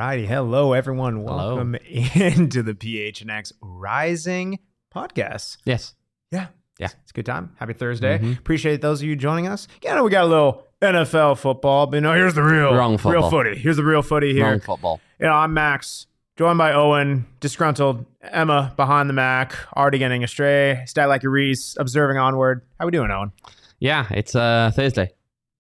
righty. Hello, everyone. Hello. Welcome into the PHNX Rising podcast. Yes. Yeah. Yeah. It's a good time. Happy Thursday. Mhm. Appreciate those of you joining us. Yeah, we got a little NFL football, but here's the real football. footy. Here's the real footy here. Wrong football. I'm Max, joined by Owen, disgruntled, Emma behind the Mac, already getting astray, stat like a Reese, observing onward. How we doing, Owen? Yeah, it's Thursday.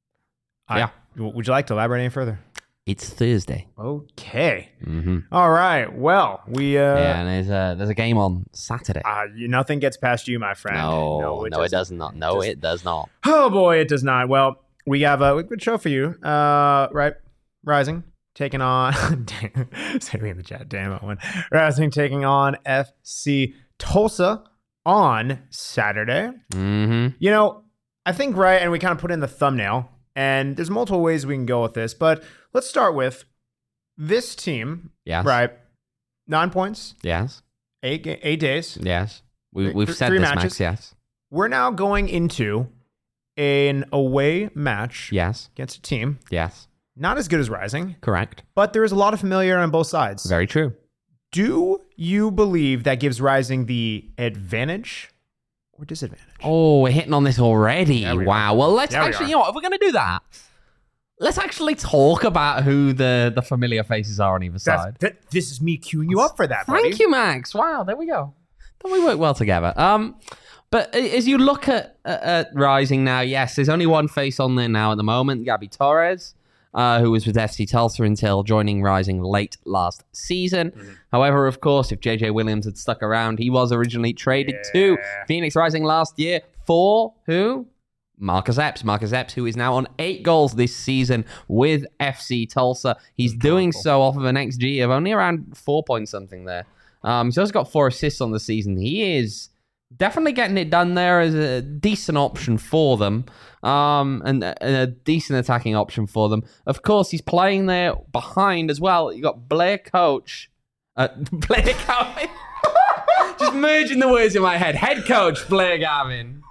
Would you like to elaborate any further? It's Thursday. Okay. Mm-hmm. All right. Well, we Yeah, and there's a game on Saturday. nothing gets past you, my friend. No, it does not. No, it does not. Oh boy, it does not. Well, we have a good show for you. Right, Rising taking on. Say me in the chat. Damn it, one. Rising taking on FC Tulsa on Saturday. Mm-hmm. I think right, and we kind of put in the thumbnail. And there's multiple ways we can go with this, but let's start with this team. Yes. Right. 9 points, Yes. 8 days. Yes. We've said three this, matches. Max. Yes. We're now going into an away match Yes. against a team Yes. not as good as Rising, Correct. but there is a lot of familiarity on both sides. Very true. Do you believe that gives Rising the advantage or disadvantage? Oh, we're hitting on this already. Yeah, we Wow. are. Well, let's Yeah, we actually, are. you know what, if we're going to do that, let's actually talk about who the familiar faces are on either side. This is me queuing you up for that, buddy. Thank you, Max. Wow, there we go. Then we work well together. But as you look at Rising now, yes, there's only one face on there now at the moment, Gabby Torres, who was with FC Tulsa until joining Rising late last season. Mm-hmm. However, of course, if JJ Williams had stuck around, he was originally traded to Phoenix Rising last year for who? Marcus Epps. Marcus Epps, who is now on 8 goals this season with FC Tulsa. He's doing so off of an XG of only around 4 point something there. He's also got 4 assists on the season. He is definitely getting it done there as a decent option for them, and a decent attacking option for them. Of course, he's playing there behind as well. You got Blair Coach. Blair Gavin. Just merging the words in my head. Head coach Blair Gavin.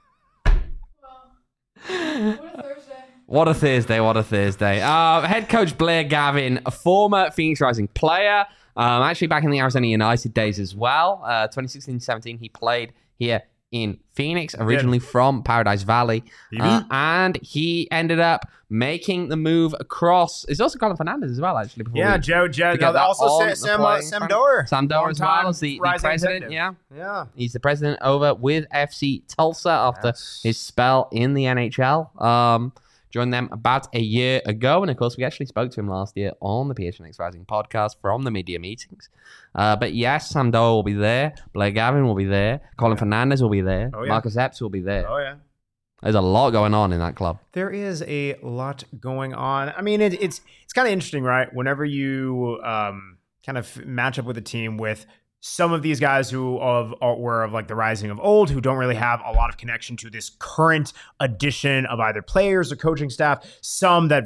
What a Thursday. Head coach Blair Gavin, a former Phoenix Rising player, actually back in the Arizona United days as well. 2016-17, he played here in Phoenix, originally from Paradise Valley. And he ended up making the move across. It's also Colin Fernandez as well, actually. Joe. Also, Sam Doerr. Sam Doerr as well as the president. Executive. Yeah. He's the president over with FC Tulsa after his spell in the NHL. Joined them about a year ago. And of course, we actually spoke to him last year on the PHNX Rising podcast from the media meetings. But yes, Sam Doerr will be there. Blair Gavin will be there. Colin Fernandez will be there. Oh, yeah. Marcus Epps will be there. Oh, yeah. There's a lot going on in that club. There is a lot going on. I mean, it's kind of interesting, right? Whenever you kind of match up with a team with some of these guys who were of like the Rising of old, who don't really have a lot of connection to this current addition of either players or coaching staff, some that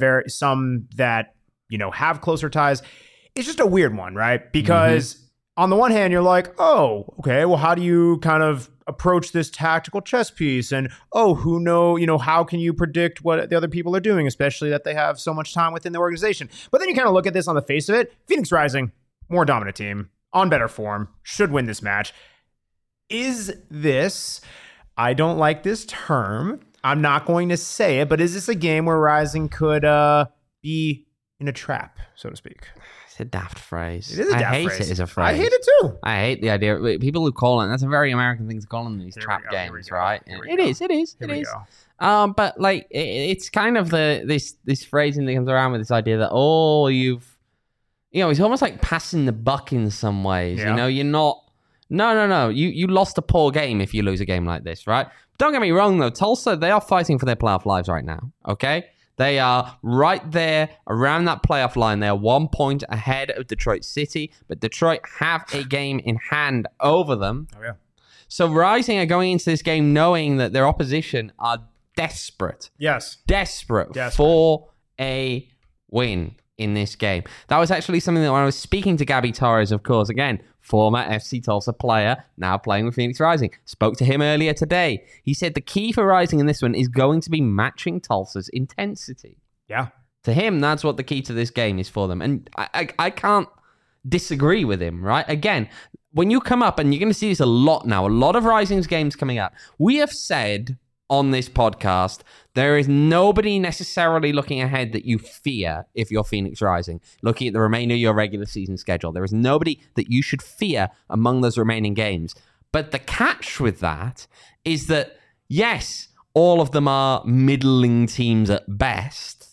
have closer ties. It's just a weird one, right? Because on the one hand, you're like, oh, okay, well, how do you kind of approach this tactical chess piece? And how can you predict what the other people are doing, especially that they have so much time within the organization? But then you kind of look at this on the face of it. Phoenix Rising, more dominant team, on better form, should win this match. Is this, I don't like this term, I'm not going to say it, but is this a game where Rising could be in a trap, so to speak? It's a daft phrase. It is a daft phrase. I hate it as a phrase. I hate it too. I hate the idea. People who call it, that's a very American thing to call them, these trap games, right? It is. It is. But like, it's kind of this phrasing that comes around with this idea that, it's almost like passing the buck in some ways. Yeah. You're not. No. You lost a poor game if you lose a game like this, right? Don't get me wrong, though. Tulsa, they are fighting for their playoff lives right now, okay? They are right there around that playoff line. They are 1 point ahead of Detroit City, but Detroit have a game in hand over them. Oh, yeah. So Rising are going into this game knowing that their opposition are desperate. Yes. Desperate for a win in this game. That was actually something that when I was speaking to Gabby Torres, of course, again, former FC Tulsa player, now playing with Phoenix Rising, spoke to him earlier today. He said the key for Rising in this one is going to be matching Tulsa's intensity. Yeah. To him, that's what the key to this game is for them. And I can't disagree with him, right? Again, when you come up, and you're going to see this a lot now, a lot of Rising's games coming up, we have said on this podcast, there is nobody necessarily looking ahead that you fear if you're Phoenix Rising. Looking at the remainder of your regular season schedule, there is nobody that you should fear among those remaining games. But the catch with that is that, yes, all of them are middling teams at best,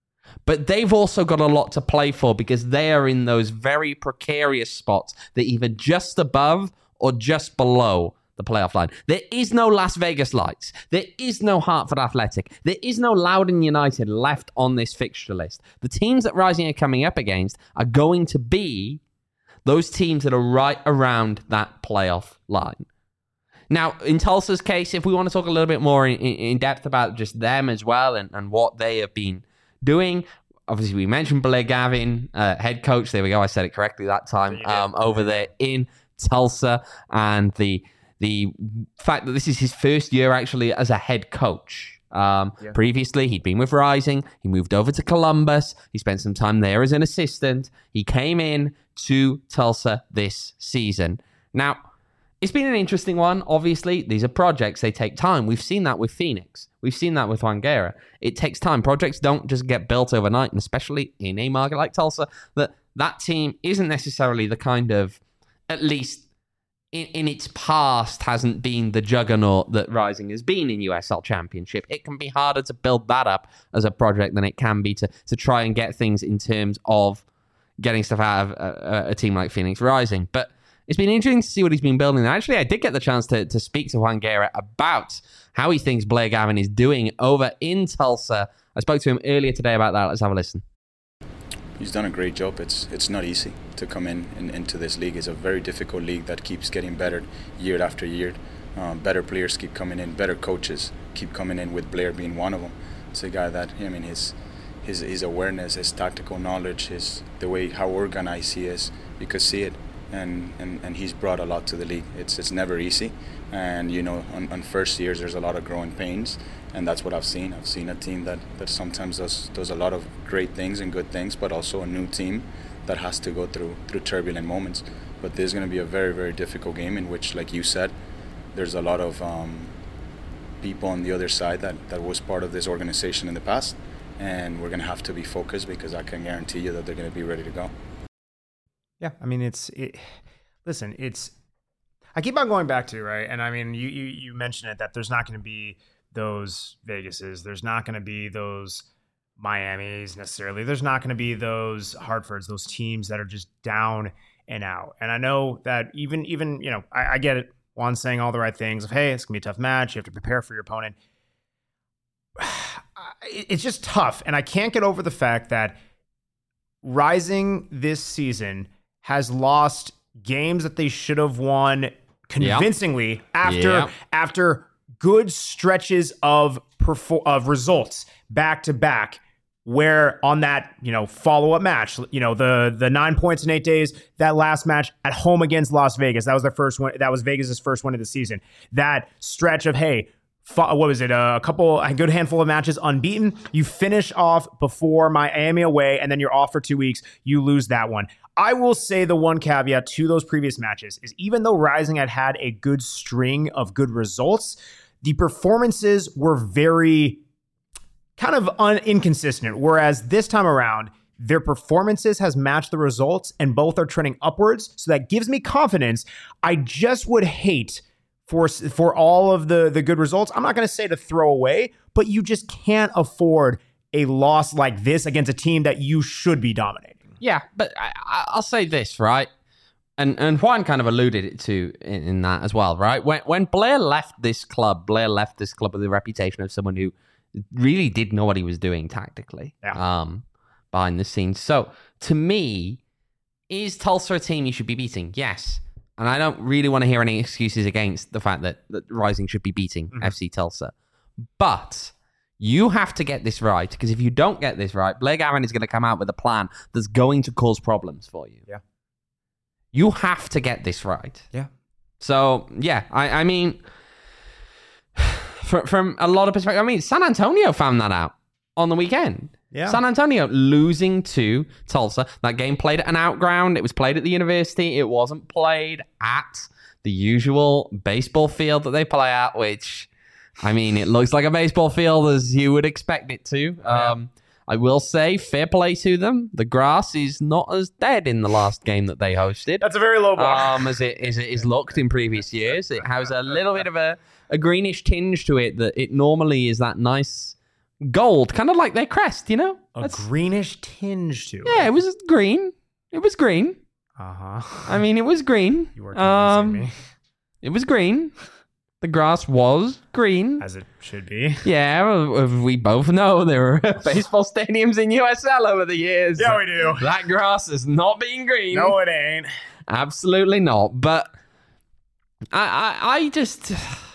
but they've also got a lot to play for because they are in those very precarious spots. They're either just above or just below the playoff line. There is no Las Vegas Lights. There is no Hartford Athletic. There is no Loudoun United left on this fixture list. The teams that Rising are coming up against are going to be those teams that are right around that playoff line. Now, in Tulsa's case, if we want to talk a little bit more in depth about just them as well and what they have been doing, obviously we mentioned Blair Gavin, head coach. There we go. I said it correctly that time. Over there in Tulsa, and the fact that this is his first year actually as a head coach. Previously, he'd been with Rising. He moved over to Columbus. He spent some time there as an assistant. He came in to Tulsa this season. Now, it's been an interesting one. Obviously, these are projects. They take time. We've seen that with Phoenix. We've seen that with Juan Guerra. It takes time. Projects don't just get built overnight, and especially in a market like Tulsa, that team isn't necessarily the kind of, at least in its past, hasn't been the juggernaut that Rising has been in USL Championship. It can be harder to build that up as a project than it can be to try and get things in terms of getting stuff out of a team like Phoenix Rising. But it's been interesting to see what he's been building. Actually, I did get the chance to speak to Juan Guerra about how he thinks Blair Gavin is doing over in Tulsa. I spoke to him earlier today about that. Let's have a listen. He's done a great job. It's not easy to come into this league. It's a very difficult league that keeps getting better year after year. Better players keep coming in. Better coaches keep coming in, with Blair being one of them. It's a guy that, I mean, his awareness, his tactical knowledge, the way how organized he is, you could see it. And he's brought a lot to the league. It's never easy, and on first years there's a lot of growing pains, and that's what I've seen. I've seen a team that sometimes does a lot of great things and good things, but also a new team that has to go through turbulent moments. But there's going to be a very, very difficult game in which, like you said, there's a lot of people on the other side that was part of this organization in the past, and we're going to have to be focused, because I can guarantee you that they're going to be ready to go. Yeah, I mean, I keep on going back to, right? And I mean, you mentioned it, that there's not going to be those Vegases. There's not going to be those Miamis necessarily. There's not going to be those Hartfords, those teams that are just down and out. And I know that even I get it. Juan's saying all the right things of, hey, it's going to be a tough match. You have to prepare for your opponent. It's just tough. And I can't get over the fact that Rising this season has lost games that they should have won convincingly after good stretches of results back to back, where on that follow-up match, the 9 points in 8 days, that last match at home against Las Vegas, that was their first one. That was Vegas's first win of the season. That stretch of, hey, what was it? A good handful of matches unbeaten. You finish off before Miami away, and then you're off for 2 weeks. You lose that one. I will say the one caveat to those previous matches is, even though Rising had a good string of good results, the performances were very kind of inconsistent. Whereas this time around, their performances has matched the results, and both are trending upwards. So that gives me confidence. I just would hate for all of the good results, I'm not going to say to throw away, but you just can't afford a loss like this against a team that you should be dominating. Yeah, but I'll say this, right? And Juan kind of alluded it to in that as well, right? When Blair left this club with the reputation of someone who really did know what he was doing tactically behind the scenes. So, to me, is Tulsa a team you should be beating? Yes. And I don't really want to hear any excuses against the fact that Rising should be beating FC Tulsa. But you have to get this right, because if you don't get this right, Blair Gavin is going to come out with a plan that's going to cause problems for you. Yeah. You have to get this right. Yeah. So, yeah, I mean, from a lot of perspective, I mean, San Antonio found that out on the weekend. Yeah. San Antonio losing to Tulsa. That game played at an outground. It was played at the university. It wasn't played at the usual baseball field that they play at, which, I mean, it looks like a baseball field as you would expect it to. I will say, fair play to them. The grass is not as dead in the last game that they hosted. That's a very low bar. As it is looked in previous years. It has a little bit of a greenish tinge to it that it normally is that nice gold, kind of like their crest, you know? A greenish tinge to it. Yeah, it was green. It was green. Uh-huh. I mean, it was green. You were convincing me. It was green. The grass was green. As it should be. Yeah, we both know there were baseball stadiums in USL over the years. Yeah, we do. That grass has not been green. No, it ain't. Absolutely not. But I just...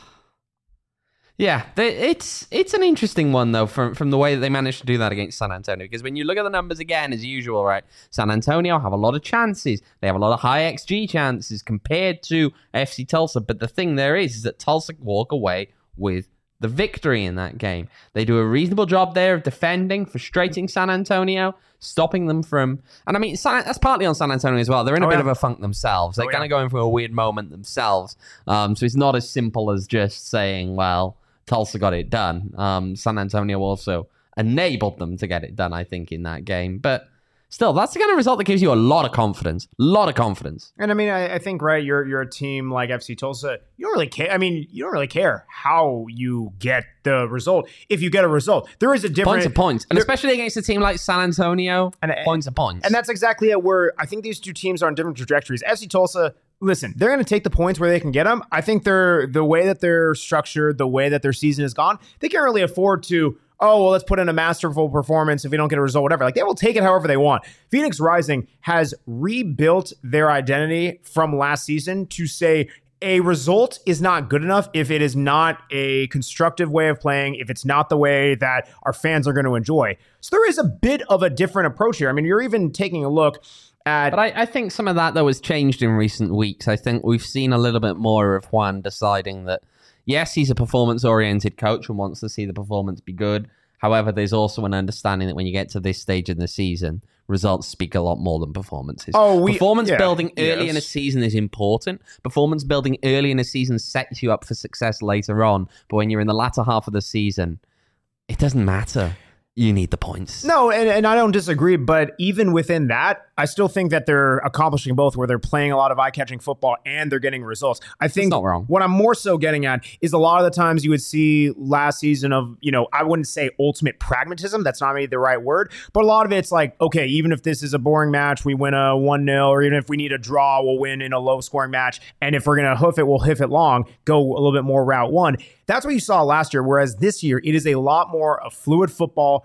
Yeah, it's an interesting one, though, from the way that they managed to do that against San Antonio. Because when you look at the numbers again, as usual, right, San Antonio have a lot of chances. They have a lot of high XG chances compared to FC Tulsa. But the thing there is that Tulsa walk away with the victory in that game. They do a reasonable job there of defending, frustrating San Antonio, stopping them from... And I mean, that's partly on San Antonio as well. They're in a bit of a funk themselves. They're kind of going through a weird moment themselves. So it's not as simple as just saying, well... Tulsa got it done. San Antonio also enabled them to get it done, I think, in that game. But still, that's the kind of result that gives you a lot of confidence. And I mean, I think, right, you're a team like FC Tulsa. You don't really care. I mean, you don't really care how you get the result. If you get a result, there is a different... Points are points. And especially against a team like San Antonio, points are points. And that's exactly it, where I think these two teams are on different trajectories. FC Tulsa... Listen, they're going to take the points where they can get them. I think the way that they're structured, the way that their season has gone, they can't really afford to, let's put in a masterful performance if we don't get a result, whatever. Like, they will take it however they want. Phoenix Rising has rebuilt their identity from last season to say a result is not good enough if it is not a constructive way of playing, if it's not the way that our fans are going to enjoy. So there is a bit of a different approach here. I mean, you're even taking a look at... But I think some of that, though, has changed in recent weeks. I think we've seen a little bit more of Juan deciding that, yes, he's a performance-oriented coach and wants to see the performance be good. However, there's also an understanding that when you get to this stage in the season, results speak a lot more than performances. Performance building early in a season is important. Performance building early in a season sets you up for success later on. But when you're in the latter half of the season, it doesn't matter. You need the points. No, and I don't disagree, but even within that, I still think that they're accomplishing both, where they're playing a lot of eye-catching football and they're getting results. I think it's not wrong. What I'm more so getting at is a lot of the times you would see last season of, I wouldn't say ultimate pragmatism. That's not maybe the right word, but a lot of it's like, okay, even if this is a boring match, we win a 1-0, or even if we need a draw, we'll win in a low-scoring match. And if we're going to hoof it, we'll hoof it long, go a little bit more route one. That's what you saw last year, whereas this year, it is a lot more of fluid football,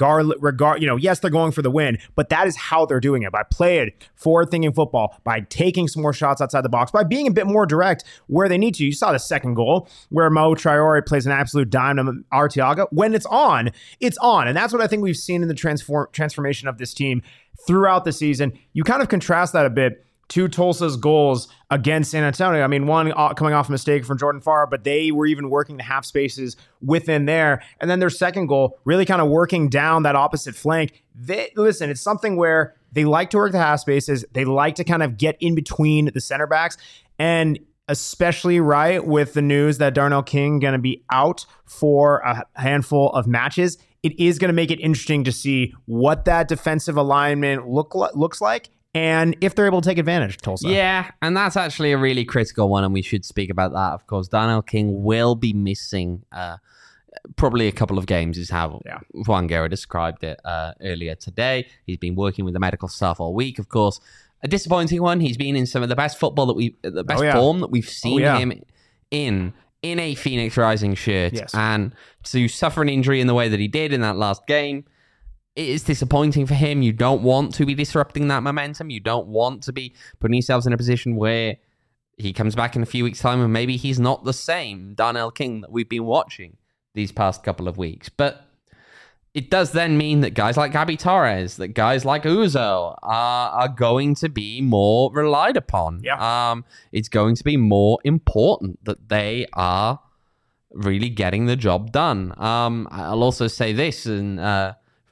yes, they're going for the win, but that is how they're doing it, by playing forward-thinking football, by taking some more shots outside the box, by being a bit more direct where they need to. You saw the second goal where Mo Traore plays an absolute dime to Arteaga. When it's on, it's on. And that's what I think we've seen in the transformation of this team throughout the season. You kind of contrast that a bit to Tulsa's goals against San Antonio. I mean, one coming off a mistake from Jordan Farr, but they were even working the half spaces within there. And then their second goal, really kind of working down that opposite flank. Listen, it's something where they like to work the half spaces. They like to kind of get in between the center backs. And especially right with the news that Darnell King going to be out for a handful of matches, it is going to make it interesting to see what that defensive alignment looks like, and if they're able to take advantage, Tulsa. Yeah, and that's actually a really critical one, and we should speak about that, of course. Darnell King will be missing probably a couple of games, is how Juan Guerra described it earlier today. He's been working with the medical staff all week, of course. A disappointing one. He's been in some of the best football form that we've seen him in a Phoenix Rising shirt. Yes. And to suffer an injury in the way that he did in that last game, it is disappointing for him. You don't want to be disrupting that momentum. You don't want to be putting yourselves in a position where he comes back in a few weeks' time and maybe he's not the same Darnell King that we've been watching these past couple of weeks. But it does then mean that guys like Gabby Torres, that guys like Uzo are going to be more relied upon. Yeah. It's going to be more important that they are really getting the job done. I'll also say this, and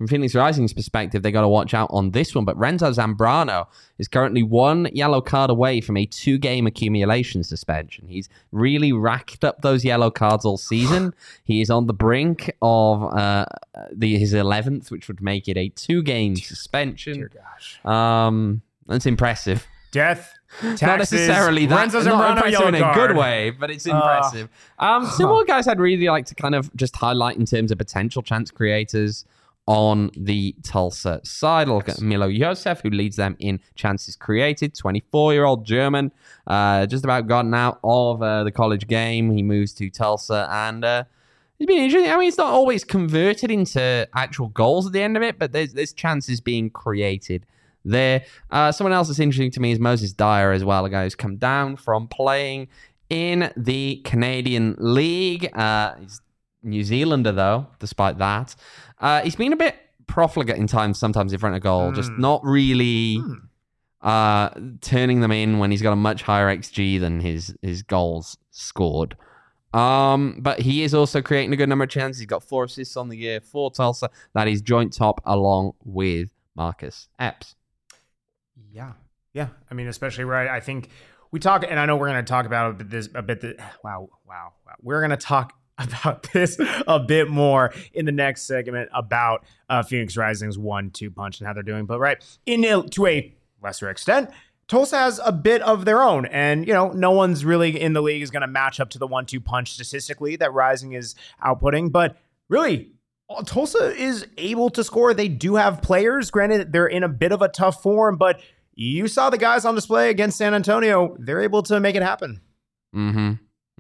from Phoenix Rising's perspective, they got to watch out on this one. But Renzo Zambrano is currently 1 yellow card away from a 2-game accumulation suspension. He's really racked up those yellow cards all season. He is on the brink of his 11th, which would make it a 2-game suspension. Dear gosh. That's impressive. Death, taxes, Not necessarily that. Renzo Not Zambrano impressive yellow in a card. good way, but it's impressive. Some more guys I'd really like to kind of just highlight in terms of potential chance creators on the Tulsa side. Look at Milo Yosef, who leads them in chances created. 24-year-old German, just about gotten out of the college game. He moves to Tulsa, and it's been interesting. I mean, it's not always converted into actual goals at the end of it, but there's chances being created there. Someone else that's interesting to me is Moses Dyer as well, a guy who's come down from playing in the Canadian League. He's New Zealander, though, despite that. He's been a bit profligate in times, sometimes in front of goal, just not really turning them in when he's got a much higher XG than his goals scored. But he is also creating a good number of chances. He's got 4 assists on the year for Tulsa. That is joint top along with Marcus Epps. Yeah. I mean, especially right. I think we talk, and I know we're going to talk about wow. We're going to talk about this a bit more in the next segment about Phoenix Rising's 1-2 punch and how they're doing. But to a lesser extent, Tulsa has a bit of their own, and no one's really in the league is going to match up to the 1-2 punch statistically that Rising is outputting. But really, Tulsa is able to score. They do have players. Granted, they're in a bit of a tough form, but you saw the guys on display against San Antonio. They're able to make it happen. Yeah.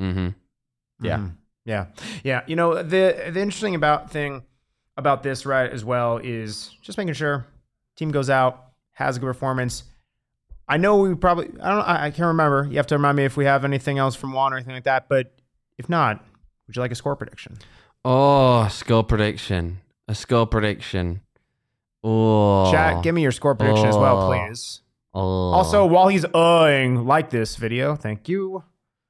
Yeah. The interesting thing about this, right, as well, is just making sure team goes out, has a good performance. I know I can't remember. You have to remind me if we have anything else from Juan or anything like that. But if not, would you like a score prediction? Oh, score prediction. A score prediction. Oh. Chat, give me your score prediction as well, please. Oh. Also, while he's like this video, thank you.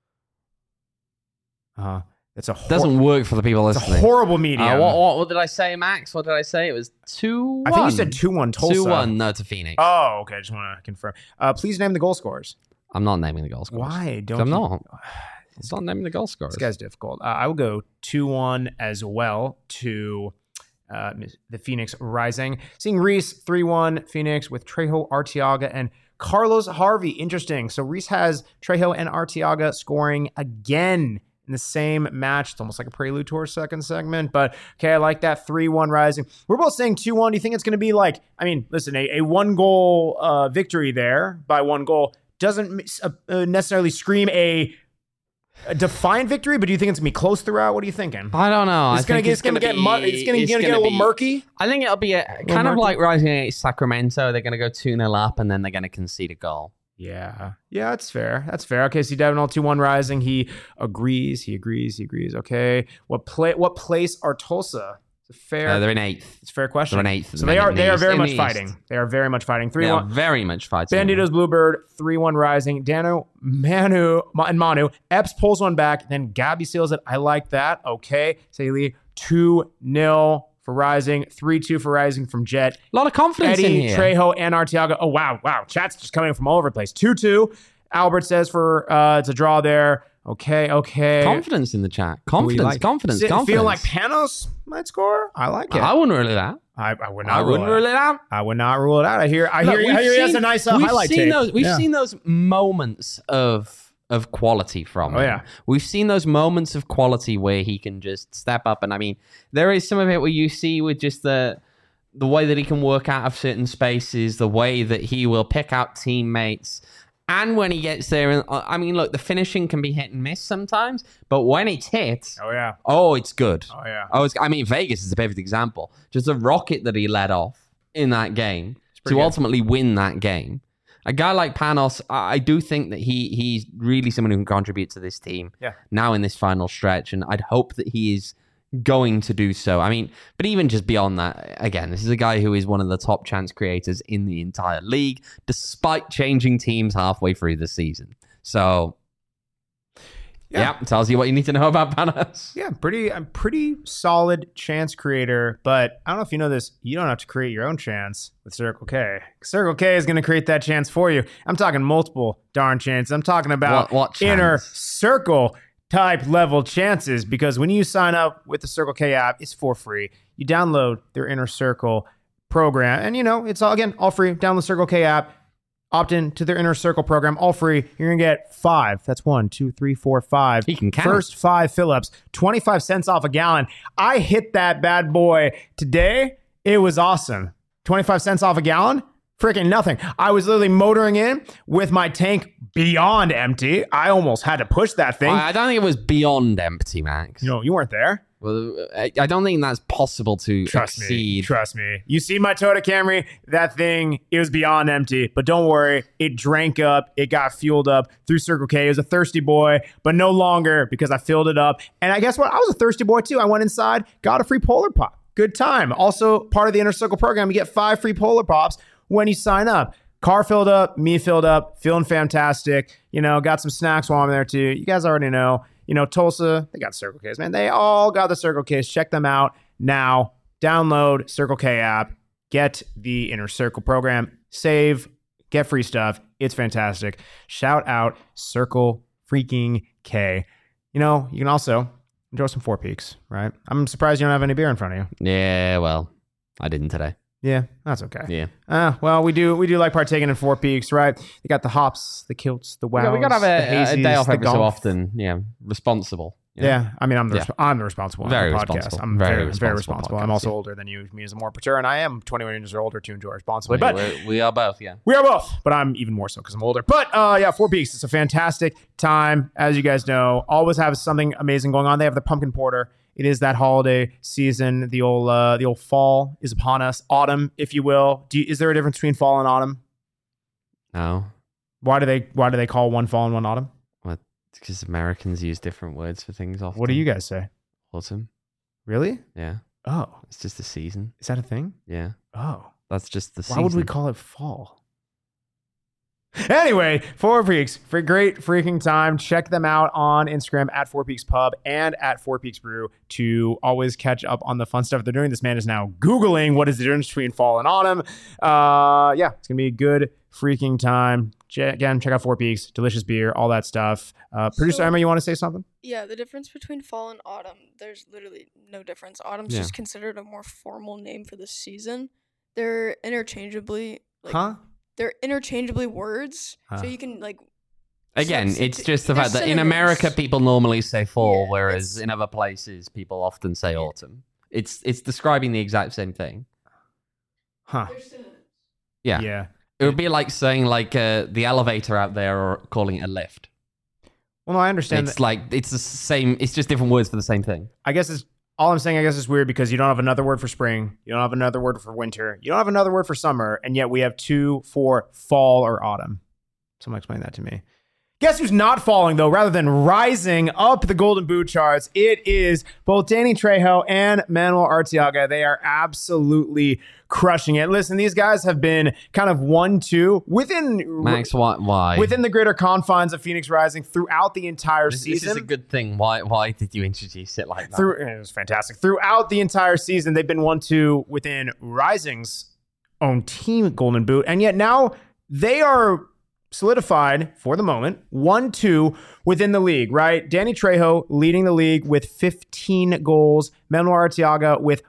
It's doesn't work for the people listening. It's a horrible medium. What did I say, Max? What did I say? It was 2-1. I think you said 2-1 Tulsa. 2-1, no, to Phoenix. Oh, okay. I just want to confirm. Please name the goal scorers. I'm not naming the goal scorers. Why? I'm not naming the goal scorers. This guy's difficult. I will go 2-1 as well to the Phoenix Rising. Seeing Reese 3-1 Phoenix with Trejo, Arteaga, and Carlos Harvey. Interesting. So Reese has Trejo and Arteaga scoring again in the same match. It's almost like a prelude to our second segment, but okay, I like that. 3-1 Rising. We're both saying 2-1. Do you think it's going to be like, listen, a 1-goal victory there by 1 goal doesn't necessarily scream a defiant victory, but do you think it's going to be close throughout? What are you thinking? I don't know. It's going to get a little murky. I think it'll be kind of like Rising against Sacramento. They're going to go 2-0 up and then they're going to concede a goal. Yeah, that's fair. Okay, so Devin 2-1 Rising. He agrees. Okay. What place are Tulsa? It's fair. They're in 8th. It's a fair question. They're in 8th. So they are very much fighting. They are very much fighting. 3-1. They are very much fighting. Banditos Bluebird 3-1 Rising. Dano, Manu, and Manu. Epps pulls one back. Then Gabby seals it. I like that. Okay. Saley 2-0 for Rising. 3-2 for Rising from Jet. A lot of confidence Eddie, in here. Trejo, and Arteaga. Oh, wow. Chat's just coming from all over the place. 2-2. Albert says it's a draw there. Okay. Confidence in the chat. Confidence. Feel like Panos might score? I like it. I wouldn't rule it out. I would not rule it out. I would not rule it out. I hear he has a nice highlight tape. We've seen those moments of quality from him. Yeah. We've seen those moments of quality where he can just step up. And there is some of it where you see with just the way that he can work out of certain spaces, the way that he will pick out teammates. And when he gets there, and look, the finishing can be hit and miss sometimes, but when it's hit, it's good. Vegas is a perfect example. Just a rocket that he let off in that game to ultimately win that game. A guy like Panos, I do think that he's really someone who can contribute to this team now in this final stretch, and I'd hope that he is going to do so. But even just beyond that, again, this is a guy who is one of the top chance creators in the entire league, despite changing teams halfway through the season. So Yeah, tells you what you need to know about Panos. Yeah, I'm pretty solid chance creator, but I don't know if you know this, you don't have to create your own chance with Circle K. Circle K is going to create that chance for you. I'm talking multiple darn chances. I'm talking about what inner chance? circle type level chances, because when you sign up with the Circle K app, it's for free. You download their Inner Circle program, and it's all free. Download the Circle K app. Opt in to their Inner Circle program, all free. You're going to get 5. That's 1, 2, 3, 4, 5. He can count. First 5 fill-ups, 25 cents off a gallon. I hit that bad boy today. It was awesome. 25 cents off a gallon? Freaking nothing. I was literally motoring in with my tank beyond empty. I almost had to push that thing. I don't think it was beyond empty, Max. No, you weren't there. Well, I don't think that's possible to exceed. Trust me. You see my Toyota Camry? That thing, it was beyond empty. But don't worry, it drank up. It got fueled up through Circle K. It was a thirsty boy, but no longer, because I filled it up. And I guess what? I was a thirsty boy too. I went inside, got a free Polar Pop. Good time. Also, part of the Inner Circle program, you get 5 free Polar Pops when you sign up. Car filled up, me filled up, feeling fantastic. Got some snacks while I'm there too. You guys already know. Tulsa, they got Circle Ks, man. They all got the Circle Ks. Check them out now. Download Circle K app. Get the Inner Circle program. Save. Get free stuff. It's fantastic. Shout out Circle freaking K. You can also enjoy some Four Peaks, right? I'm surprised you don't have any beer in front of you. Yeah, well, I didn't today. Yeah, that's okay. Yeah. Well, we do like partaking in Four Peaks, right? You got the hops, the kilts, the wows. Yeah, we gotta have a day off every so golf. often. Yeah, responsible. Yeah, I mean, I'm the responsible Very on the podcast. responsible. I'm Very very responsible responsible. podcast, I'm also yeah. older than you, me as a more mature, and I am 21 years or older to enjoy responsibly. But We are both, yeah. we are both, but I'm even more so because I'm older. But yeah, Four Peaks, it's a fantastic time. As you guys know, always have something amazing going on. They have the pumpkin porter. It is that holiday season. The old fall is upon us. Autumn, if you will. Is there a difference between fall and autumn? No. Why do they call one fall and one autumn? What? Because Americans use different words for things often. What do you guys say? Autumn. Really? Yeah. Oh, It's just the season. is that a thing? Yeah. Oh. That's just the season. Why would we call it fall? Anyway, Four Peaks, for great freaking time. Check them out on Instagram at Four Peaks Pub and at Four Peaks Brew to always catch up on the fun stuff they're doing. This man is now Googling what is the difference between fall and autumn. Yeah, it's going to be a good freaking time. Again, check out Four Peaks, delicious beer, all that stuff. Producer Emma, you want to say something? Yeah, the difference between fall and autumn, there's literally no difference. Autumn's Yeah. just considered a more formal name for the season. They're interchangeably they're interchangeably words, so you can Again, it's substitute- just the they're fact that in synonyms. America people normally say fall, Yeah, whereas it's- in other places people often say autumn. It's describing the exact same thing. Huh. They're synonyms. Yeah. Yeah. It would be like saying the elevator out there or calling it a lift. Well, no, I understand It's that. like it's the same. It's just different words for the same thing. I guess it's weird because you don't have another word for spring. You don't have another word for winter. You don't have another word for summer. And yet we have 2 for fall or autumn. Someone explain that to me. Guess who's not falling, though, rather than rising up the Golden Boot charts? It is both Danny Trejo and Manuel Arteaga. They are absolutely crushing it. Listen, these guys have been kind of 1-2 within Max, why? within the greater confines of Phoenix Rising throughout the entire This season. is a good thing. Why did you introduce it like that? It was fantastic. Throughout the entire season, they've been 1-2 within Rising's own team Golden Boot, and yet now they are solidified for the moment 1-2 within the league, right? Danny Trejo leading the league with 15 goals, Manuel Arteaga with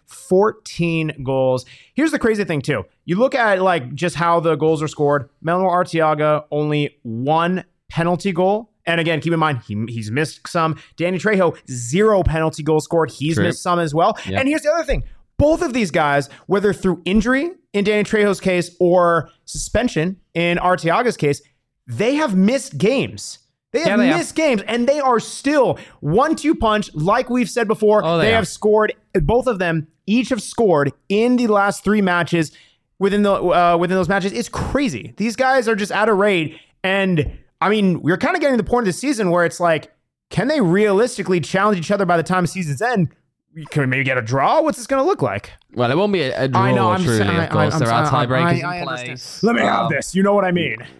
14 goals. Here's the crazy thing too. You look at just how the goals are scored. Manuel Arteaga only 1 penalty goal. And again, keep in mind, he's missed some. Danny Trejo, 0 penalty goals scored. He's True. missed some as well. Yep. And here's the other thing. Both of these guys, whether through injury in Danny Trejo's case or suspension in Arteaga's case, they have missed games. They have missed games, and they are still 1-2 punch, like we've said before. Oh, they are. have scored, both of them, each have scored in the last 3 matches within those matches. It's crazy. These guys are just at a rate, and I mean, we're kind of getting to the point of the season where it's like, can they realistically challenge each other by the time the season's end? Can we maybe get a draw? What's this going to look like? Well, it won't be a draw, I know. truly, of course. There are tiebreakers in understand. place. Let me have this. You know what I mean.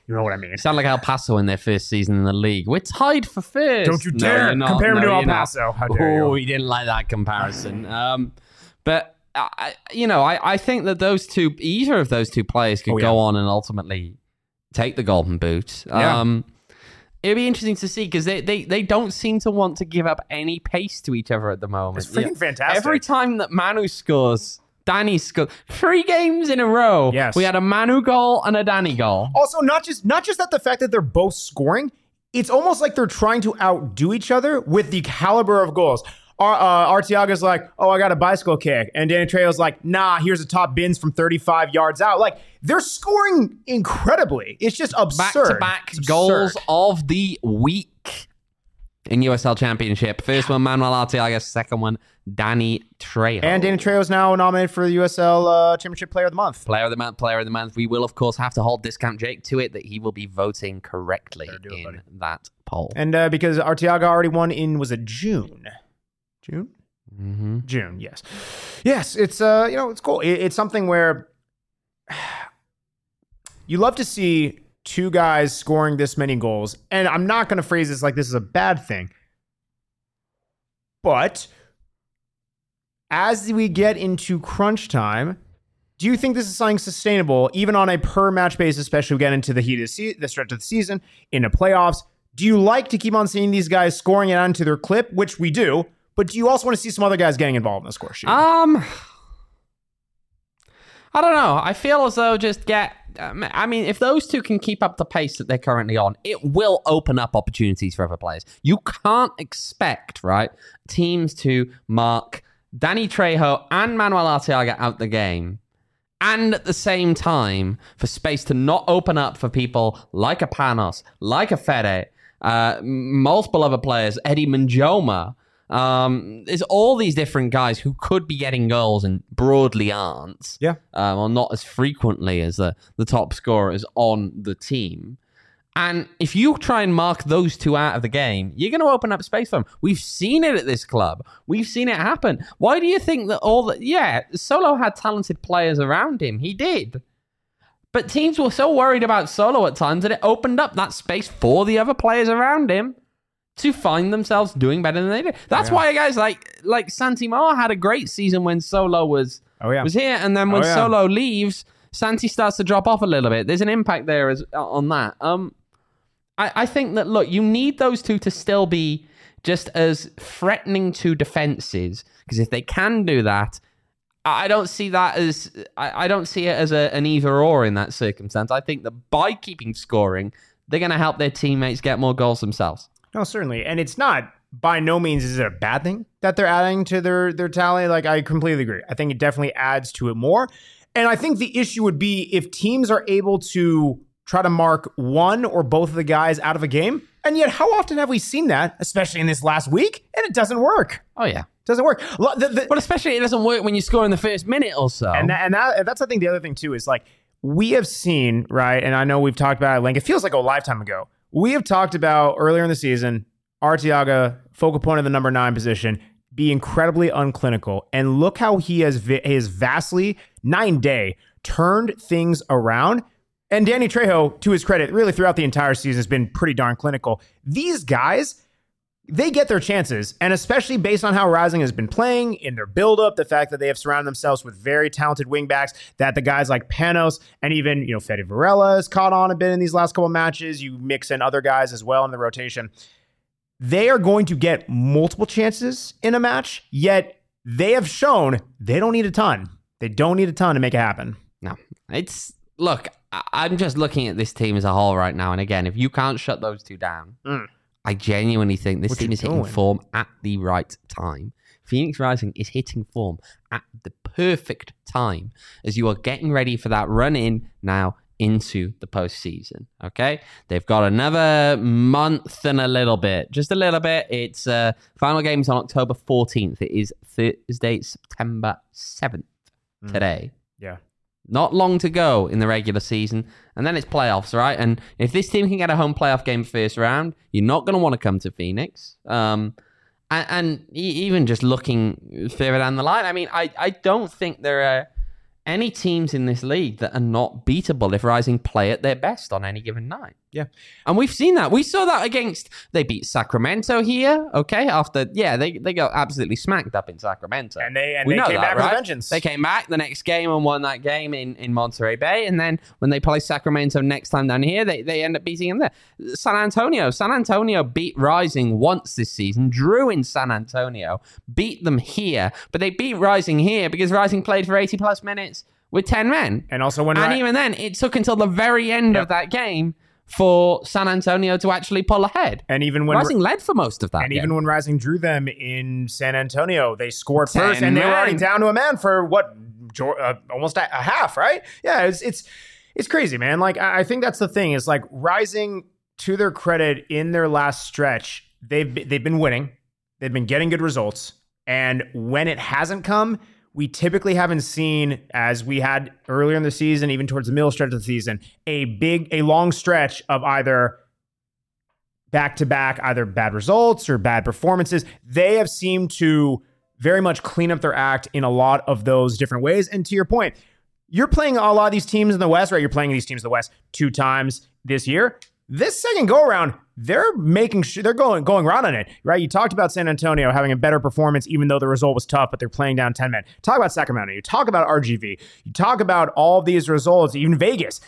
You know what I mean? Sound like El Paso in their first season in the league. We're tied for first. Don't you dare compare him to El Paso. How dare you? Oh, he didn't like that comparison. But I think that either of those two players could go on and ultimately take the Golden Boot. Yeah. It'd be interesting to see because they don't seem to want to give up any pace to each other at the moment. It's freaking fantastic. Every time that Manu scores, Danny scored 3 games in a row. Yes. We had a Manu goal and a Danny goal. Also, not just that the fact that they're both scoring, it's almost like they're trying to outdo each other with the caliber of goals. Arteaga's like, oh, I got a bicycle kick. And Danny Trejo's like, nah, here's a top bins from 35 yards out. Like, they're scoring incredibly. It's just absurd. Back-to-back goals of the week in USL Championship. First one, Manuel Arteaga. Second one, Danny Trejo. And Danny Trejo's now nominated for the USL Championship Player of the Month. Player of the month. We will, of course, have to hold Discount Jake to it that he will be voting correctly in that poll. And because Arteaga already won was it June? June? Mm-hmm. June, yes. Yes, it's, it's cool. It's something where you love to see two guys scoring this many goals. And I'm not going to phrase this like this is a bad thing. But as we get into crunch time, do you think this is something sustainable, even on a per match basis, especially we get into the heat of the stretch of the season, into playoffs? Do you like to keep on seeing these guys scoring it onto their clip, which we do, but do you also want to see some other guys getting involved in the score sheet? I don't know. I feel as though if those two can keep up the pace that they're currently on, it will open up opportunities for other players. You can't expect, right, teams to mark Danny Trejo and Manuel Arteaga out the game, and at the same time, for space to not open up for people like a Panos, like a Fede, multiple other players, Eddie Manjoma. There's all these different guys who could be getting goals and broadly aren't. Yeah. Or not as frequently as the top scorers on the team. And if you try and mark those two out of the game, you're going to open up space for them. We've seen it at this club. We've seen it happen. Why do you think that Solo had talented players around him? He did. But teams were so worried about Solo at times that it opened up that space for the other players around him to find themselves doing better than they did. That's why guys like Santi Moa had a great season when Solo was here, and then when Solo leaves, Santi starts to drop off a little bit. There's an impact there on that. I think that, look, you need those two to still be just as threatening to defenses, because if they can do that, I don't see that as I don't see it as an either or in that circumstance. I think that by keeping scoring, they're going to help their teammates get more goals themselves. No, certainly. And it's not, by no means is it a bad thing that they're adding to their tally. Like, I completely agree. I think it definitely adds to it more. And I think the issue would be if teams are able to try to mark one or both of the guys out of a game. And yet, how often have we seen that, especially in this last week? And it doesn't work. Oh, yeah. It doesn't work. But especially it doesn't work when you score in the first minute or so. And that's, I think, the other thing, too, is like, we have seen, right, and I know we've talked about it, like, it feels like a lifetime ago. We have talked about earlier in the season, Arteaga, focal point of the number 9 position, be incredibly unclinical. And look how he has vastly, 9-day, turned things around. And Danny Trejo, to his credit, really throughout the entire season has been pretty darn clinical. These guys, they get their chances. And especially based on how Rising has been playing in their buildup, the fact that they have surrounded themselves with very talented wingbacks, that the guys like Panos and even, Fede Varela has caught on a bit in these last couple matches. You mix in other guys as well in the rotation. They are going to get multiple chances in a match, yet they have shown they don't need a ton. They don't need a ton to make it happen. No, look, I'm just looking at this team as a whole right now. And again, if you can't shut those two down, I genuinely think this team is hitting form at the right time. Phoenix Rising is hitting form at the perfect time as you are getting ready for that run in now into the postseason. Okay, they've got another month and a little bit, just a little bit. It's final games on October 14th. It is Thursday, September 7th today. Yeah. Not long to go in the regular season, and then it's playoffs, right? And if this team can get a home playoff game first round, you're not going to want to come to Phoenix. And even just looking further down the line, I mean, I don't think they're any teams in this league that are not beatable if Rising play at their best on any given night. Yeah. And we've seen that. We saw that they beat Sacramento here, okay? They got absolutely smacked up in Sacramento. And they came back with vengeance. They came back the next game and won that game in Monterey Bay. And then when they play Sacramento next time down here, they end up beating them there. San Antonio beat Rising once this season, drew in San Antonio, beat them here. But they beat Rising here because Rising played for 80-plus minutes with 10 men. And also even then, it took until the very end of that game for San Antonio to actually pull ahead. And even when Rising led for most of that game. Even when Rising drew them in San Antonio, they scored first, and they were already down to a man for almost a half, right? Yeah, it's crazy, man. Like, I think that's the thing is, like, Rising, to their credit, in their last stretch, they've been winning, they've been getting good results, and when it hasn't come, we typically haven't seen, as we had earlier in the season, even towards the middle stretch of the season, a long stretch of either back-to-back, either bad results or bad performances. They have seemed to very much clean up their act in a lot of those different ways. And to your point, you're playing a lot of these teams in the West, right? You're playing these teams in the West 2 times this year. This second go-around, they're making sure they're going round on it, right? You talked about San Antonio having a better performance, even though the result was tough, but they're playing down 10 men. Talk about Sacramento. You talk about RGV. You talk about all of these results, even Vegas.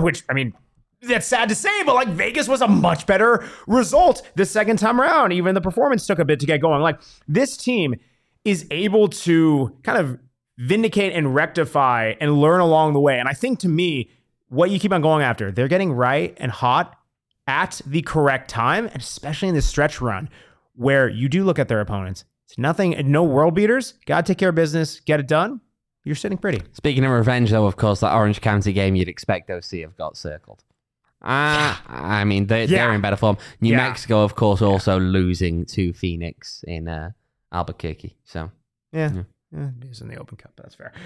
That's sad to say, but like Vegas was a much better result the second time around. Even the performance took a bit to get going. Like, this team is able to kind of vindicate and rectify and learn along the way. And I think, to me, what you keep on going after, they're getting right and hot at the correct time, and especially in this stretch run where you do look at their opponents. It's nothing, no world beaters. Got to take care of business, get it done. You're sitting pretty. Speaking of revenge, though, of course, that Orange County game you'd expect OC have got circled. I mean, they're in better form. New Mexico, of course, also losing to Phoenix in Albuquerque. So yeah. It is in the Open Cup. That's fair.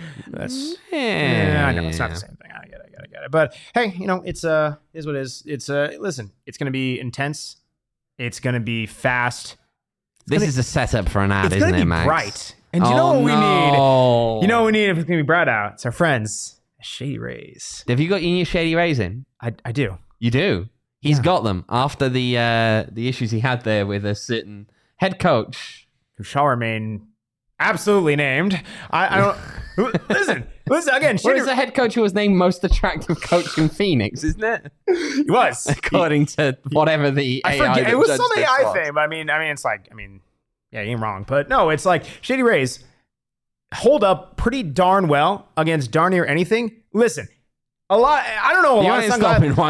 I know it's not the same thing. I get it. But hey, it's is what it is. It's listen, it's going to be intense. It's going to be fast. This is a setup for an ad, isn't it, Max? Bright. And you know what we need? You know what we need if it's going to be bright out? It's our friends, Shady Rays. Have you got your new Shady Rays in? I do. You do? He's got them after the issues he had there with a certain head coach who shall remain absolutely named. I don't listen again. Well, it's the head coach who was named most attractive coach in Phoenix, isn't it? He was, according to whatever the AI. I forget. It was some AI thing, but I mean, it's like, yeah, you ain't wrong, but no, it's like Shady Rays hold up pretty darn well against darn near anything. Listen, I don't know a lot of sunglasses.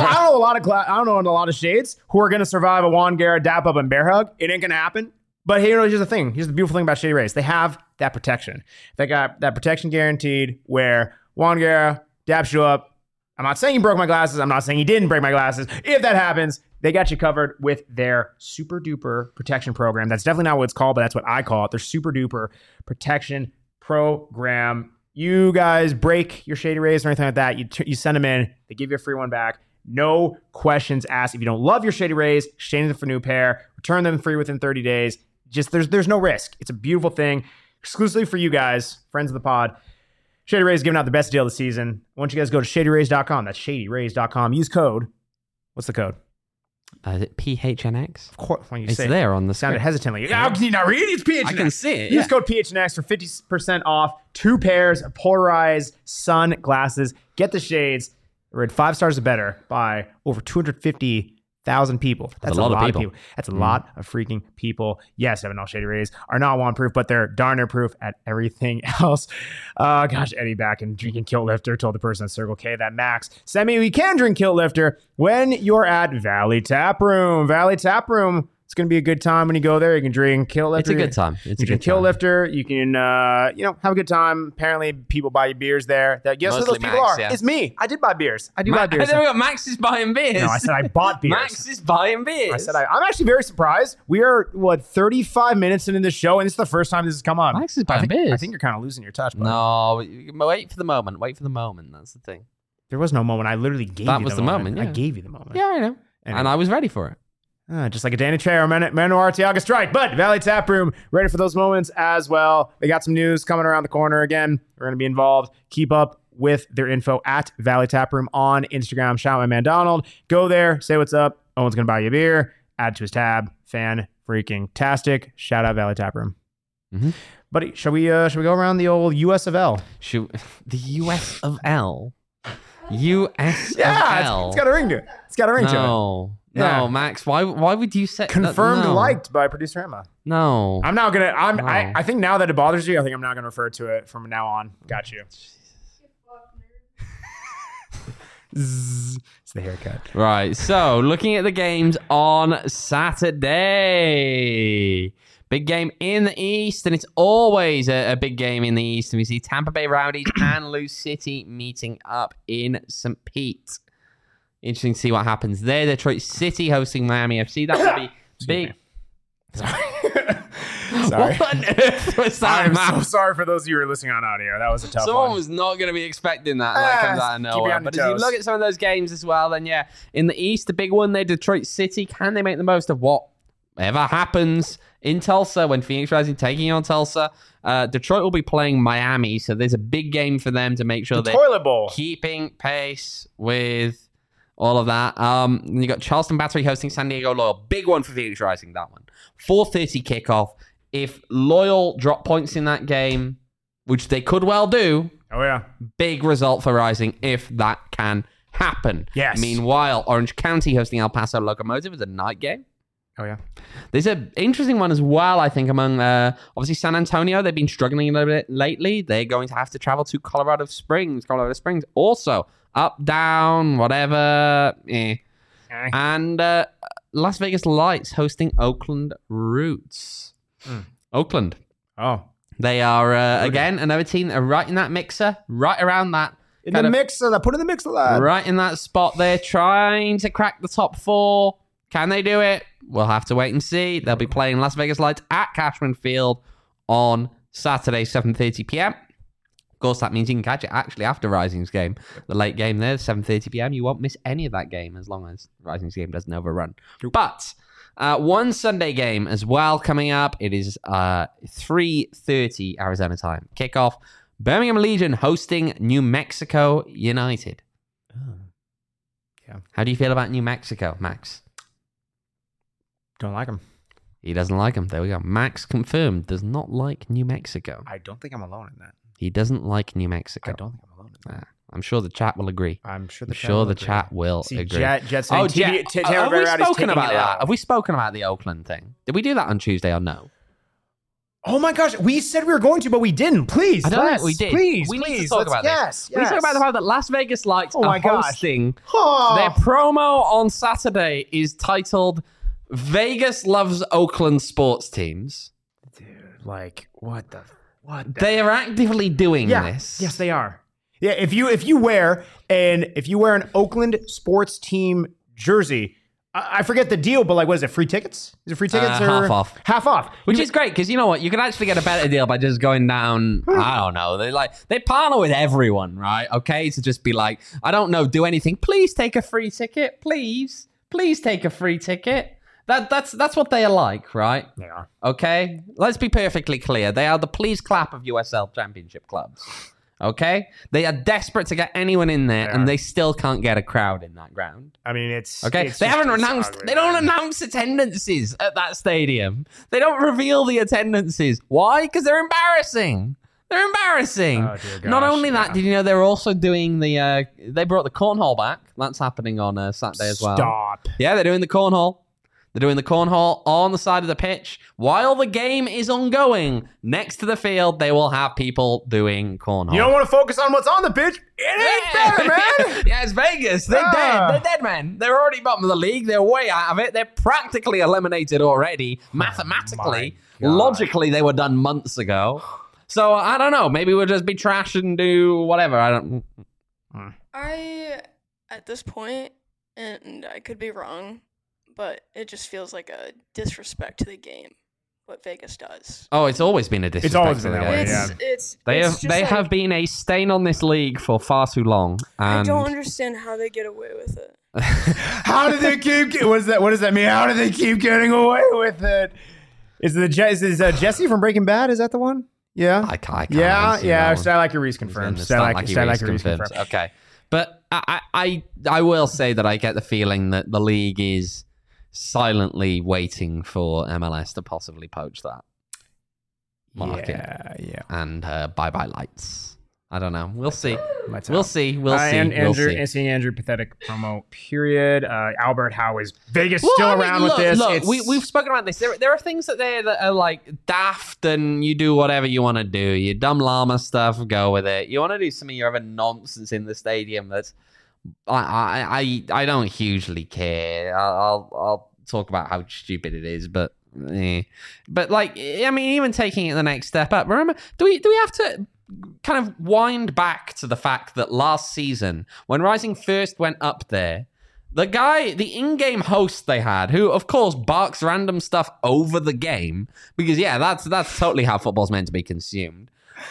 I don't know a lot of shades who are going to survive a Juan Guerra dap up and bear hug. It ain't going to happen. But here's the thing. Here's the beautiful thing about Shady Rays. They have that protection. They got that protection guaranteed where Juan Guerra daps you up. I'm not saying he broke my glasses. I'm not saying he didn't break my glasses. If that happens, they got you covered with their super duper protection program. That's definitely not what it's called, but that's what I call it. Their super duper protection program. You guys break your Shady Rays or anything like that, you send them in. They give you a free one back. No questions asked. If you don't love your Shady Rays, exchange them for a new pair. Return them free within 30 days. Just there's no risk. It's a beautiful thing. Exclusively for you guys, friends of the pod. Shady Rays giving out the best deal of the season. I want you guys to go to shadyrays.com. That's shadyrays.com. Use code. What's the code? Is it PHNX? Of course, when you it's say there on the sounded screen. Hesitantly. How can you not read? It's PHNX. I can see it. Use code PHNX for 50% off 2 pairs of polarized sunglasses. Get the shades. We're at 5 stars or better by over 250,000 people. That's a lot of people. That's a lot of freaking people. Yes, Evan, all Shady Rays are not one-proof, but they're darn near proof at everything else. Gosh, Eddie back and drinking Kilt Lifter told the person at Circle K that Max sent me we can drink Kilt Lifter when you're at Valley Tap Room. Valley Tap Room. It's going to be a good time when you go there. You can drink Kilt Lifter. It's a good time. You can Kilt Lifter. You can, have a good time. Apparently, people buy you beers there. Guess who those people are? Yeah. It's me. I did buy beers. I buy beers. I got Max is buying beers. No, I said I bought beers. Max is buying beers. I said I'm actually very surprised. We are, 35 minutes into the show, and this is the first time this has come up. Max is buying beers. I think you're kind of losing your touch, buddy. No, wait for the moment. That's the thing. There was no moment. I literally gave you the moment. That was the moment. I gave you the moment. Yeah, I know. Anyway. And I was ready for it. Just like a Danny Trejo or Manu Arteaga strike. But Valley Tap Room, ready for those moments as well. They got some news coming around the corner again. We're going to be involved. Keep up with their info at Valley Tap Room on Instagram. Shout out my man Donald. Go there, say what's up. Owen's going to buy you a beer. Add to his tab. Fan freaking tastic. Shout out Valley Tap Room. Mm-hmm. Buddy, shall we go around the old US of L? The US of L? US of L? It's got a ring to it. It's got a ring to it. No, Max. Why would you say confirmed liked by producer Emma? No, I'm not gonna. I think now that it bothers you, I think I'm not gonna refer to it from now on. Got you. It's the haircut. Right. So looking at the games on Saturday. Big game in the East, and it's always a big game in the East. And we see Tampa Bay Rowdies and Lou City meeting up in St. Pete. Interesting to see what happens there. Detroit City hosting Miami FC. That would be big. Sorry. What on earth was that? I'm so sorry for those of you who are listening on audio. That was a tough Someone one. was not going to be expecting that. That comes out of nowhere. But as you look at some of those games as well, then yeah, in the East, the big one there, Detroit City. Can they make the most of whatever happens in Tulsa when Phoenix Rising taking on Tulsa? Detroit will be playing Miami, so there's a big game for them to make sure they're toilet bowl. Keeping pace with all of that. You got Charleston Battery hosting San Diego Loyal. Big one for Phoenix Rising, that one. 4:30 kickoff. If Loyal drop points in that game, which they could well do, big result for Rising if that can happen. Yes. Meanwhile, Orange County hosting El Paso Locomotive is a night game. Oh, yeah. There's an interesting one as well, I think, among obviously San Antonio. They've been struggling a little bit lately. They're going to have to travel to Colorado Springs. Also, up, down, whatever. And Las Vegas Lights hosting Oakland Roots. Oakland. Oh. They are, again, another team that are right in that mixer, right around that. In the mixer. Put in the mixer, lad. Right in that spot there, trying to crack the top four. Can they do it? We'll have to wait and see. They'll be playing Las Vegas Lights at Cashman Field on Saturday, 7:30 p.m. Of course, that means you can catch it actually after Rising's game. The late game there, 7:30 p.m. You won't miss any of that game as long as Rising's game doesn't overrun. But one Sunday game as well coming up. It is 3:30 Arizona time. Kickoff. Birmingham Legion hosting New Mexico United. Oh. Yeah. How do you feel about New Mexico, Max? Don't like him. He doesn't like him. There we go. Max confirmed does not like New Mexico. I don't think I'm alone in that. He doesn't like New Mexico. I don't think I'm alone in that. I'm sure the chat will agree. I'm sure the chat will agree. Jet Have we spoken about that? Have we spoken about the Oakland thing? Did we do that on Tuesday or no? Oh my gosh, we said we were going to, but we didn't. Please, I don't think we did. Please, we need to talk about this. Yes. We need to talk about the fact that Las Vegas Lights are hosting. Oh. Their promo on Saturday is titled "Vegas Loves Oakland Sports Teams." Dude, like what the? They are actively doing this. Yes, they are. Yeah, if you wear an Oakland sports team jersey. I forget the deal, but like, what is it? Free tickets? Is it free tickets or half off? Half off, which is great because you know what? You can actually get a better deal by just going down. I don't know. They partner with everyone, right? Okay, to just be like, I don't know, do anything. Please take a free ticket, please take a free ticket. That's what they are like, right? They are. Okay, let's be perfectly clear. They are the please clap of USL Championship clubs. Okay, they are desperate to get anyone in there, and they still can't get a crowd in that ground. I mean, it's okay. They haven't announced. They don't announce attendances at that stadium. They don't reveal the attendances. Why? Because they're embarrassing. They're embarrassing. Oh, dear gosh, not only that, did you know they're also doing the? They brought the cornhole back. That's happening on Saturday as well. Stop. Yeah, they're doing the cornhole. They're doing the cornhole on the side of the pitch. While the game is ongoing, next to the field, they will have people doing cornhole. You don't want to focus on what's on the pitch? It ain't better, man. Yeah, it's Vegas. They're dead. They're dead, man. They're already bottom of the league. They're way out of it. They're practically eliminated already. Mathematically. Logically, they were done months ago. So, I don't know. Maybe we'll just be trash and do whatever. At this point, and I could be wrong, but it just feels like a disrespect to the game what Vegas does. Oh, it's always been a disrespect. It's always to been the that game. way, They have been a stain on this league for far too long. And I don't understand how they get away with it. How do they keep? What does that mean? How do they keep getting away with it? Is Jesse from Breaking Bad? Is that the one? Yeah. I can't. Yeah. Stat like your Reese confirmed. Stat like your Reese confirmed. Okay, but I will say that I get the feeling that the league is silently waiting for MLS to possibly poach that market. Yeah. And bye-bye lights. I don't know. We'll see. We'll see. And seeing Andrew pathetic promo. Period. Albert Howe is Vegas still around with this. Look, we've spoken about this. There are things that are like daft, and you do whatever you want to do. Your dumb llama stuff, go with it. You want to do some of your other nonsense in the stadium. That's I don't hugely care. I'll talk about how stupid it is, but like, I mean, even taking it the next step up. Remember, do we have to kind of wind back to the fact that last season, when Rising first went up there, the in-game host they had, who of course barks random stuff over the game, because that's totally how football's meant to be consumed,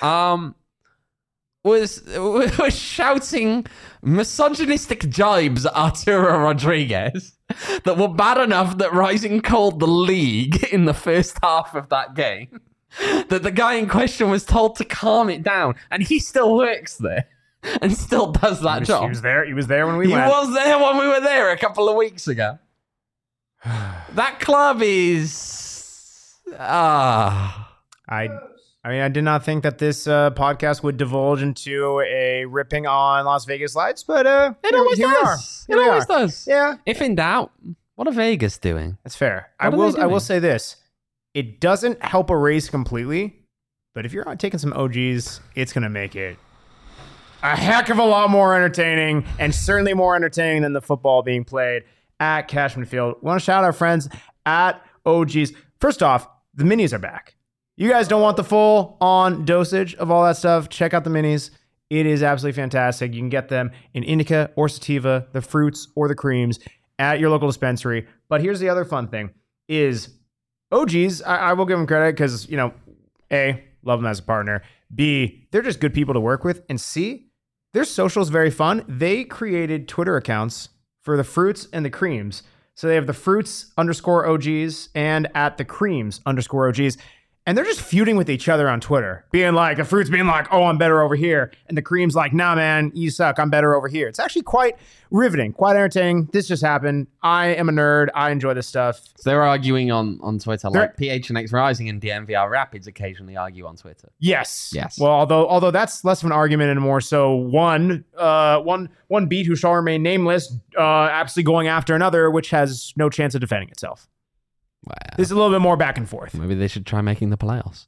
was shouting misogynistic jibes at Arturo Rodriguez that were bad enough that Rising called the league in the first half of that game. That the guy in question was told to calm it down, and he still works there and still does that job. He was there when we went. He was there when we were there a couple of weeks ago. That club is... I did not think that this podcast would divulge into a ripping on Las Vegas Lights, but it always does. It always does. Yeah. If in doubt, what are Vegas doing? That's fair. I will say this. It doesn't help a race completely, but if you're not taking some OGs, it's going to make it a heck of a lot more entertaining, and certainly more entertaining than the football being played at Cashman Field. We want to shout out our friends at OGs. First off, the minis are back. You guys don't want the full-on dosage of all that stuff, check out the minis. It is absolutely fantastic. You can get them in indica or sativa, the fruits or the creams, at your local dispensary. But here's the other fun thing, is OGs, I will give them credit because, A, love them as a partner. B, they're just good people to work with. And C, their social's very fun. They created Twitter accounts for the fruits and the creams. So they have the fruits _OGs and at the creams _OGs. And they're just feuding with each other on Twitter, being like, the fruits being like, oh, I'm better over here. And the cream's like, nah, man, you suck. I'm better over here. It's actually quite riveting, quite entertaining. This just happened. I am a nerd. I enjoy this stuff. So they're arguing on Twitter, like PHNX Rising and DMVR Rapids occasionally argue on Twitter. Yes. Well, although that's less of an argument and more so one beat who shall remain nameless, absolutely going after another, which has no chance of defending itself. Wow. This is a little bit more back and forth. Maybe they should try making the playoffs.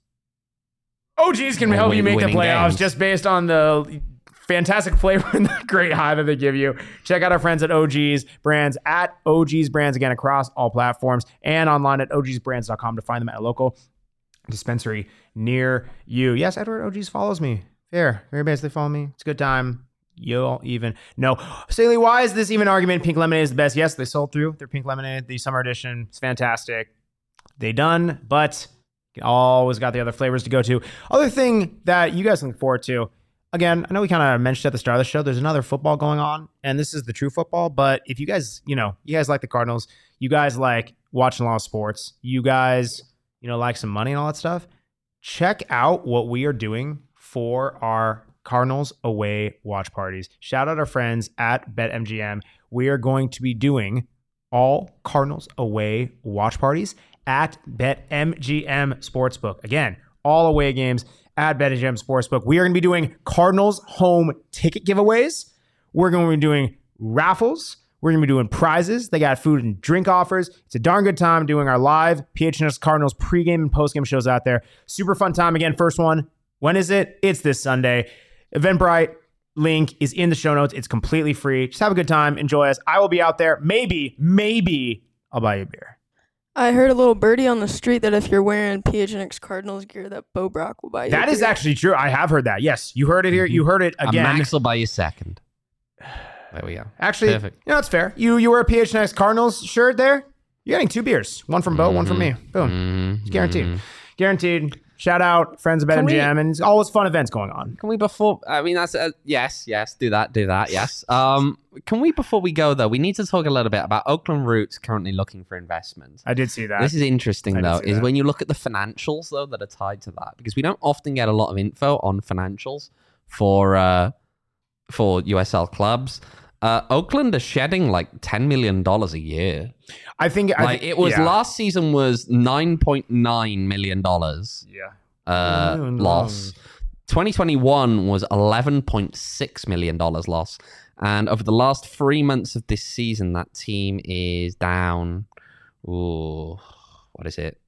OGs can help you make the playoffs games. Just based on the fantastic flavor and the great high that they give you. Check out our friends at OGs Brands, at OGs Brands, again, across all platforms, and online at ogsbrands.com to find them at a local dispensary near you. Yes, Edward OGs follows me. Fair. Very basically follow me. It's a good time. You'll even know. Staley, why is this even argument? Pink lemonade is the best. Yes, they sold through their pink lemonade, the summer edition. It's fantastic. They done, but you always got the other flavors to go to. Other thing that you guys look forward to. Again, I know we kind of mentioned at the start of the show, there's another football going on, and this is the true football. But if you guys, you guys like the Cardinals, you guys like watching a lot of sports, you guys, like some money and all that stuff, check out what we are doing for our Cardinals away watch parties. Shout out our friends at BetMGM. We are going to be doing all Cardinals away watch parties at BetMGM Sportsbook. Again, all away games at BetMGM Sportsbook. We are going to be doing Cardinals home ticket giveaways. We're going to be doing raffles. We're going to be doing prizes. They got food and drink offers. It's a darn good time doing our live PHNX Cardinals pregame and postgame shows out there. Super fun time. Again, first one. When is it? It's this Sunday. Eventbrite link is in the show notes. It's completely free. Just have a good time. Enjoy us. I will be out there. Maybe I'll buy you a beer. I heard a little birdie on the street that if you're wearing PHNX Cardinals gear, that Bo Brock will buy you That a is beer. actually true. I have heard that. Yes, you heard it here. You heard it again. Max will buy you second. There we go. Actually, perfect. It's fair. You wear a PHNX Cardinals shirt there? You're getting 2 beers. One from Bo, one from me. Boom. It's guaranteed. Guaranteed. Shout out, friends of BetMGM, and it's always fun events going on. Can we that's yes, do that, yes. Can we, before we go though, we need to talk a little bit about Oakland Roots currently looking for investment. I did see that. This is interesting though, is when you look at the financials though that are tied to that, because we don't often get a lot of info on financials for USL clubs. Oakland are shedding like $10 million a year. I think last season was $9.9 million. Loss. 2021 was $11.6 million loss. And over the last 3 months of this season, that team is down. Ooh, what is it?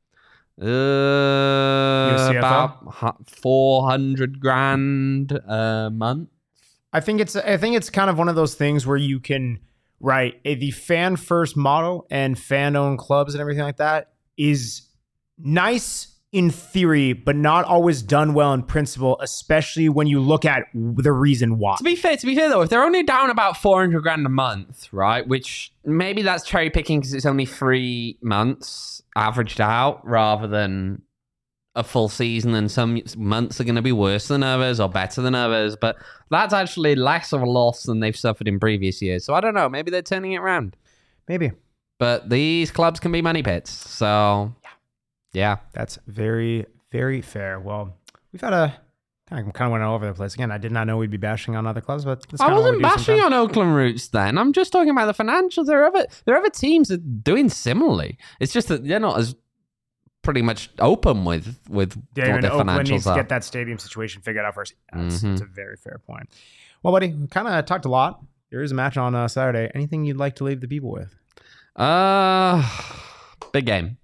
About 400 grand a month. I think it's kind of one of those things where you can, right, the fan first model and fan owned clubs and everything like that is nice in theory, but not always done well in principle, especially when you look at the reason why. To be fair though, if they're only down about 400 grand a month, right, which maybe that's cherry picking because it's only 3 months averaged out rather than a full season, and some months are going to be worse than others or better than others, but that's actually less of a loss than they've suffered in previous years. So I don't know, maybe they're turning it around. Maybe. But these clubs can be money pits. So yeah. That's very, very fair. Well, we've had I kind of went all over the place again. I did not know we'd be bashing on other clubs, but I wasn't bashing on Oakland Roots then. I'm just talking about the financials. There are other teams that are doing similarly. It's just that they're not as pretty much open with what their Oakland financials needs are. To get that stadium situation figured out first. That's a very fair point. Well, buddy, we kind of talked a lot. There is a match on Saturday. Anything you'd like to leave the people with? Big game.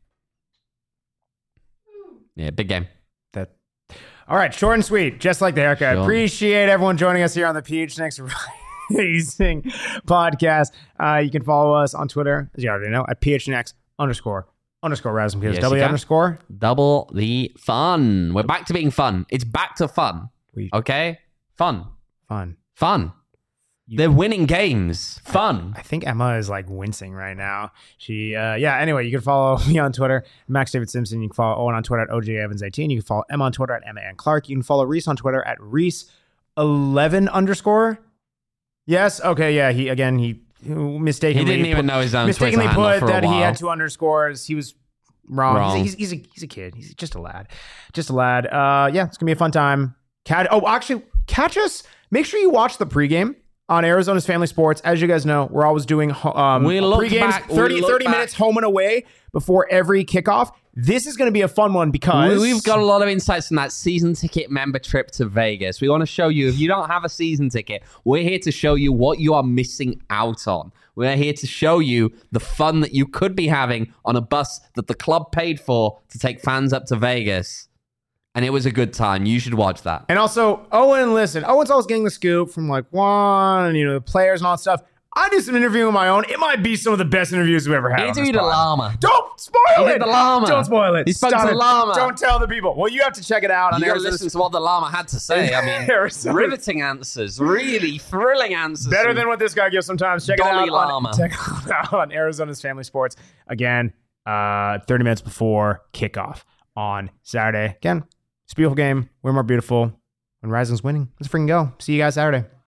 Yeah, big game. All right, short and sweet, just like the haircut. Sure. Appreciate everyone joining us here on the PHNX Rising podcast. You can follow us on Twitter, as you already know, at PHNX_Rising. Yes, W underscore. Double the fun. We're back to being fun. It's back to fun. Okay? Fun. They're winning games. Fun. I think Emma is like wincing right now. Anyway, you can follow me on Twitter, Max David Simpson. You can follow Owen on Twitter at OJ Evans 18. You can follow Emma on Twitter at Emma Ann Clark. You can follow Reese on Twitter at Reese11_. Yes. Okay. Yeah. He mistakenly. He didn't even know his own mistakenly Twitter handle put for a that he while. had 2 underscores. He was wrong. He's a kid. He's just a lad. It's gonna be a fun time. Catch us. Make sure you watch the pregame on Arizona's Family Sports. As you guys know, we're always doing pre-games, 30 minutes home and away before every kickoff. This is going to be a fun one because we've got a lot of insights from that season ticket member trip to Vegas. We want to show you, if you don't have a season ticket, we're here to show you what you are missing out on. We're here to show you the fun that you could be having on a bus that the club paid for to take fans up to Vegas. And it was a good time. You should watch that. And also, Owen's always getting the scoop from like Juan and, the players and all that stuff. I do some interviewing of my own. It might be some of the best interviews we've ever had. He interviewed a llama. Don't spoil it. The llama. Don't spoil it. He spoke to the llama. Don't tell the people. Well, you have to check it out. You got to listen to what the llama had to say. I mean, riveting answers. Really thrilling answers. Better than what this guy gives sometimes. Check it out on Arizona's Family Sports. Again, 30 minutes before kickoff on Saturday. Again, it's a beautiful game. We're more beautiful when Rising's winning. Let's freaking go. See you guys Saturday.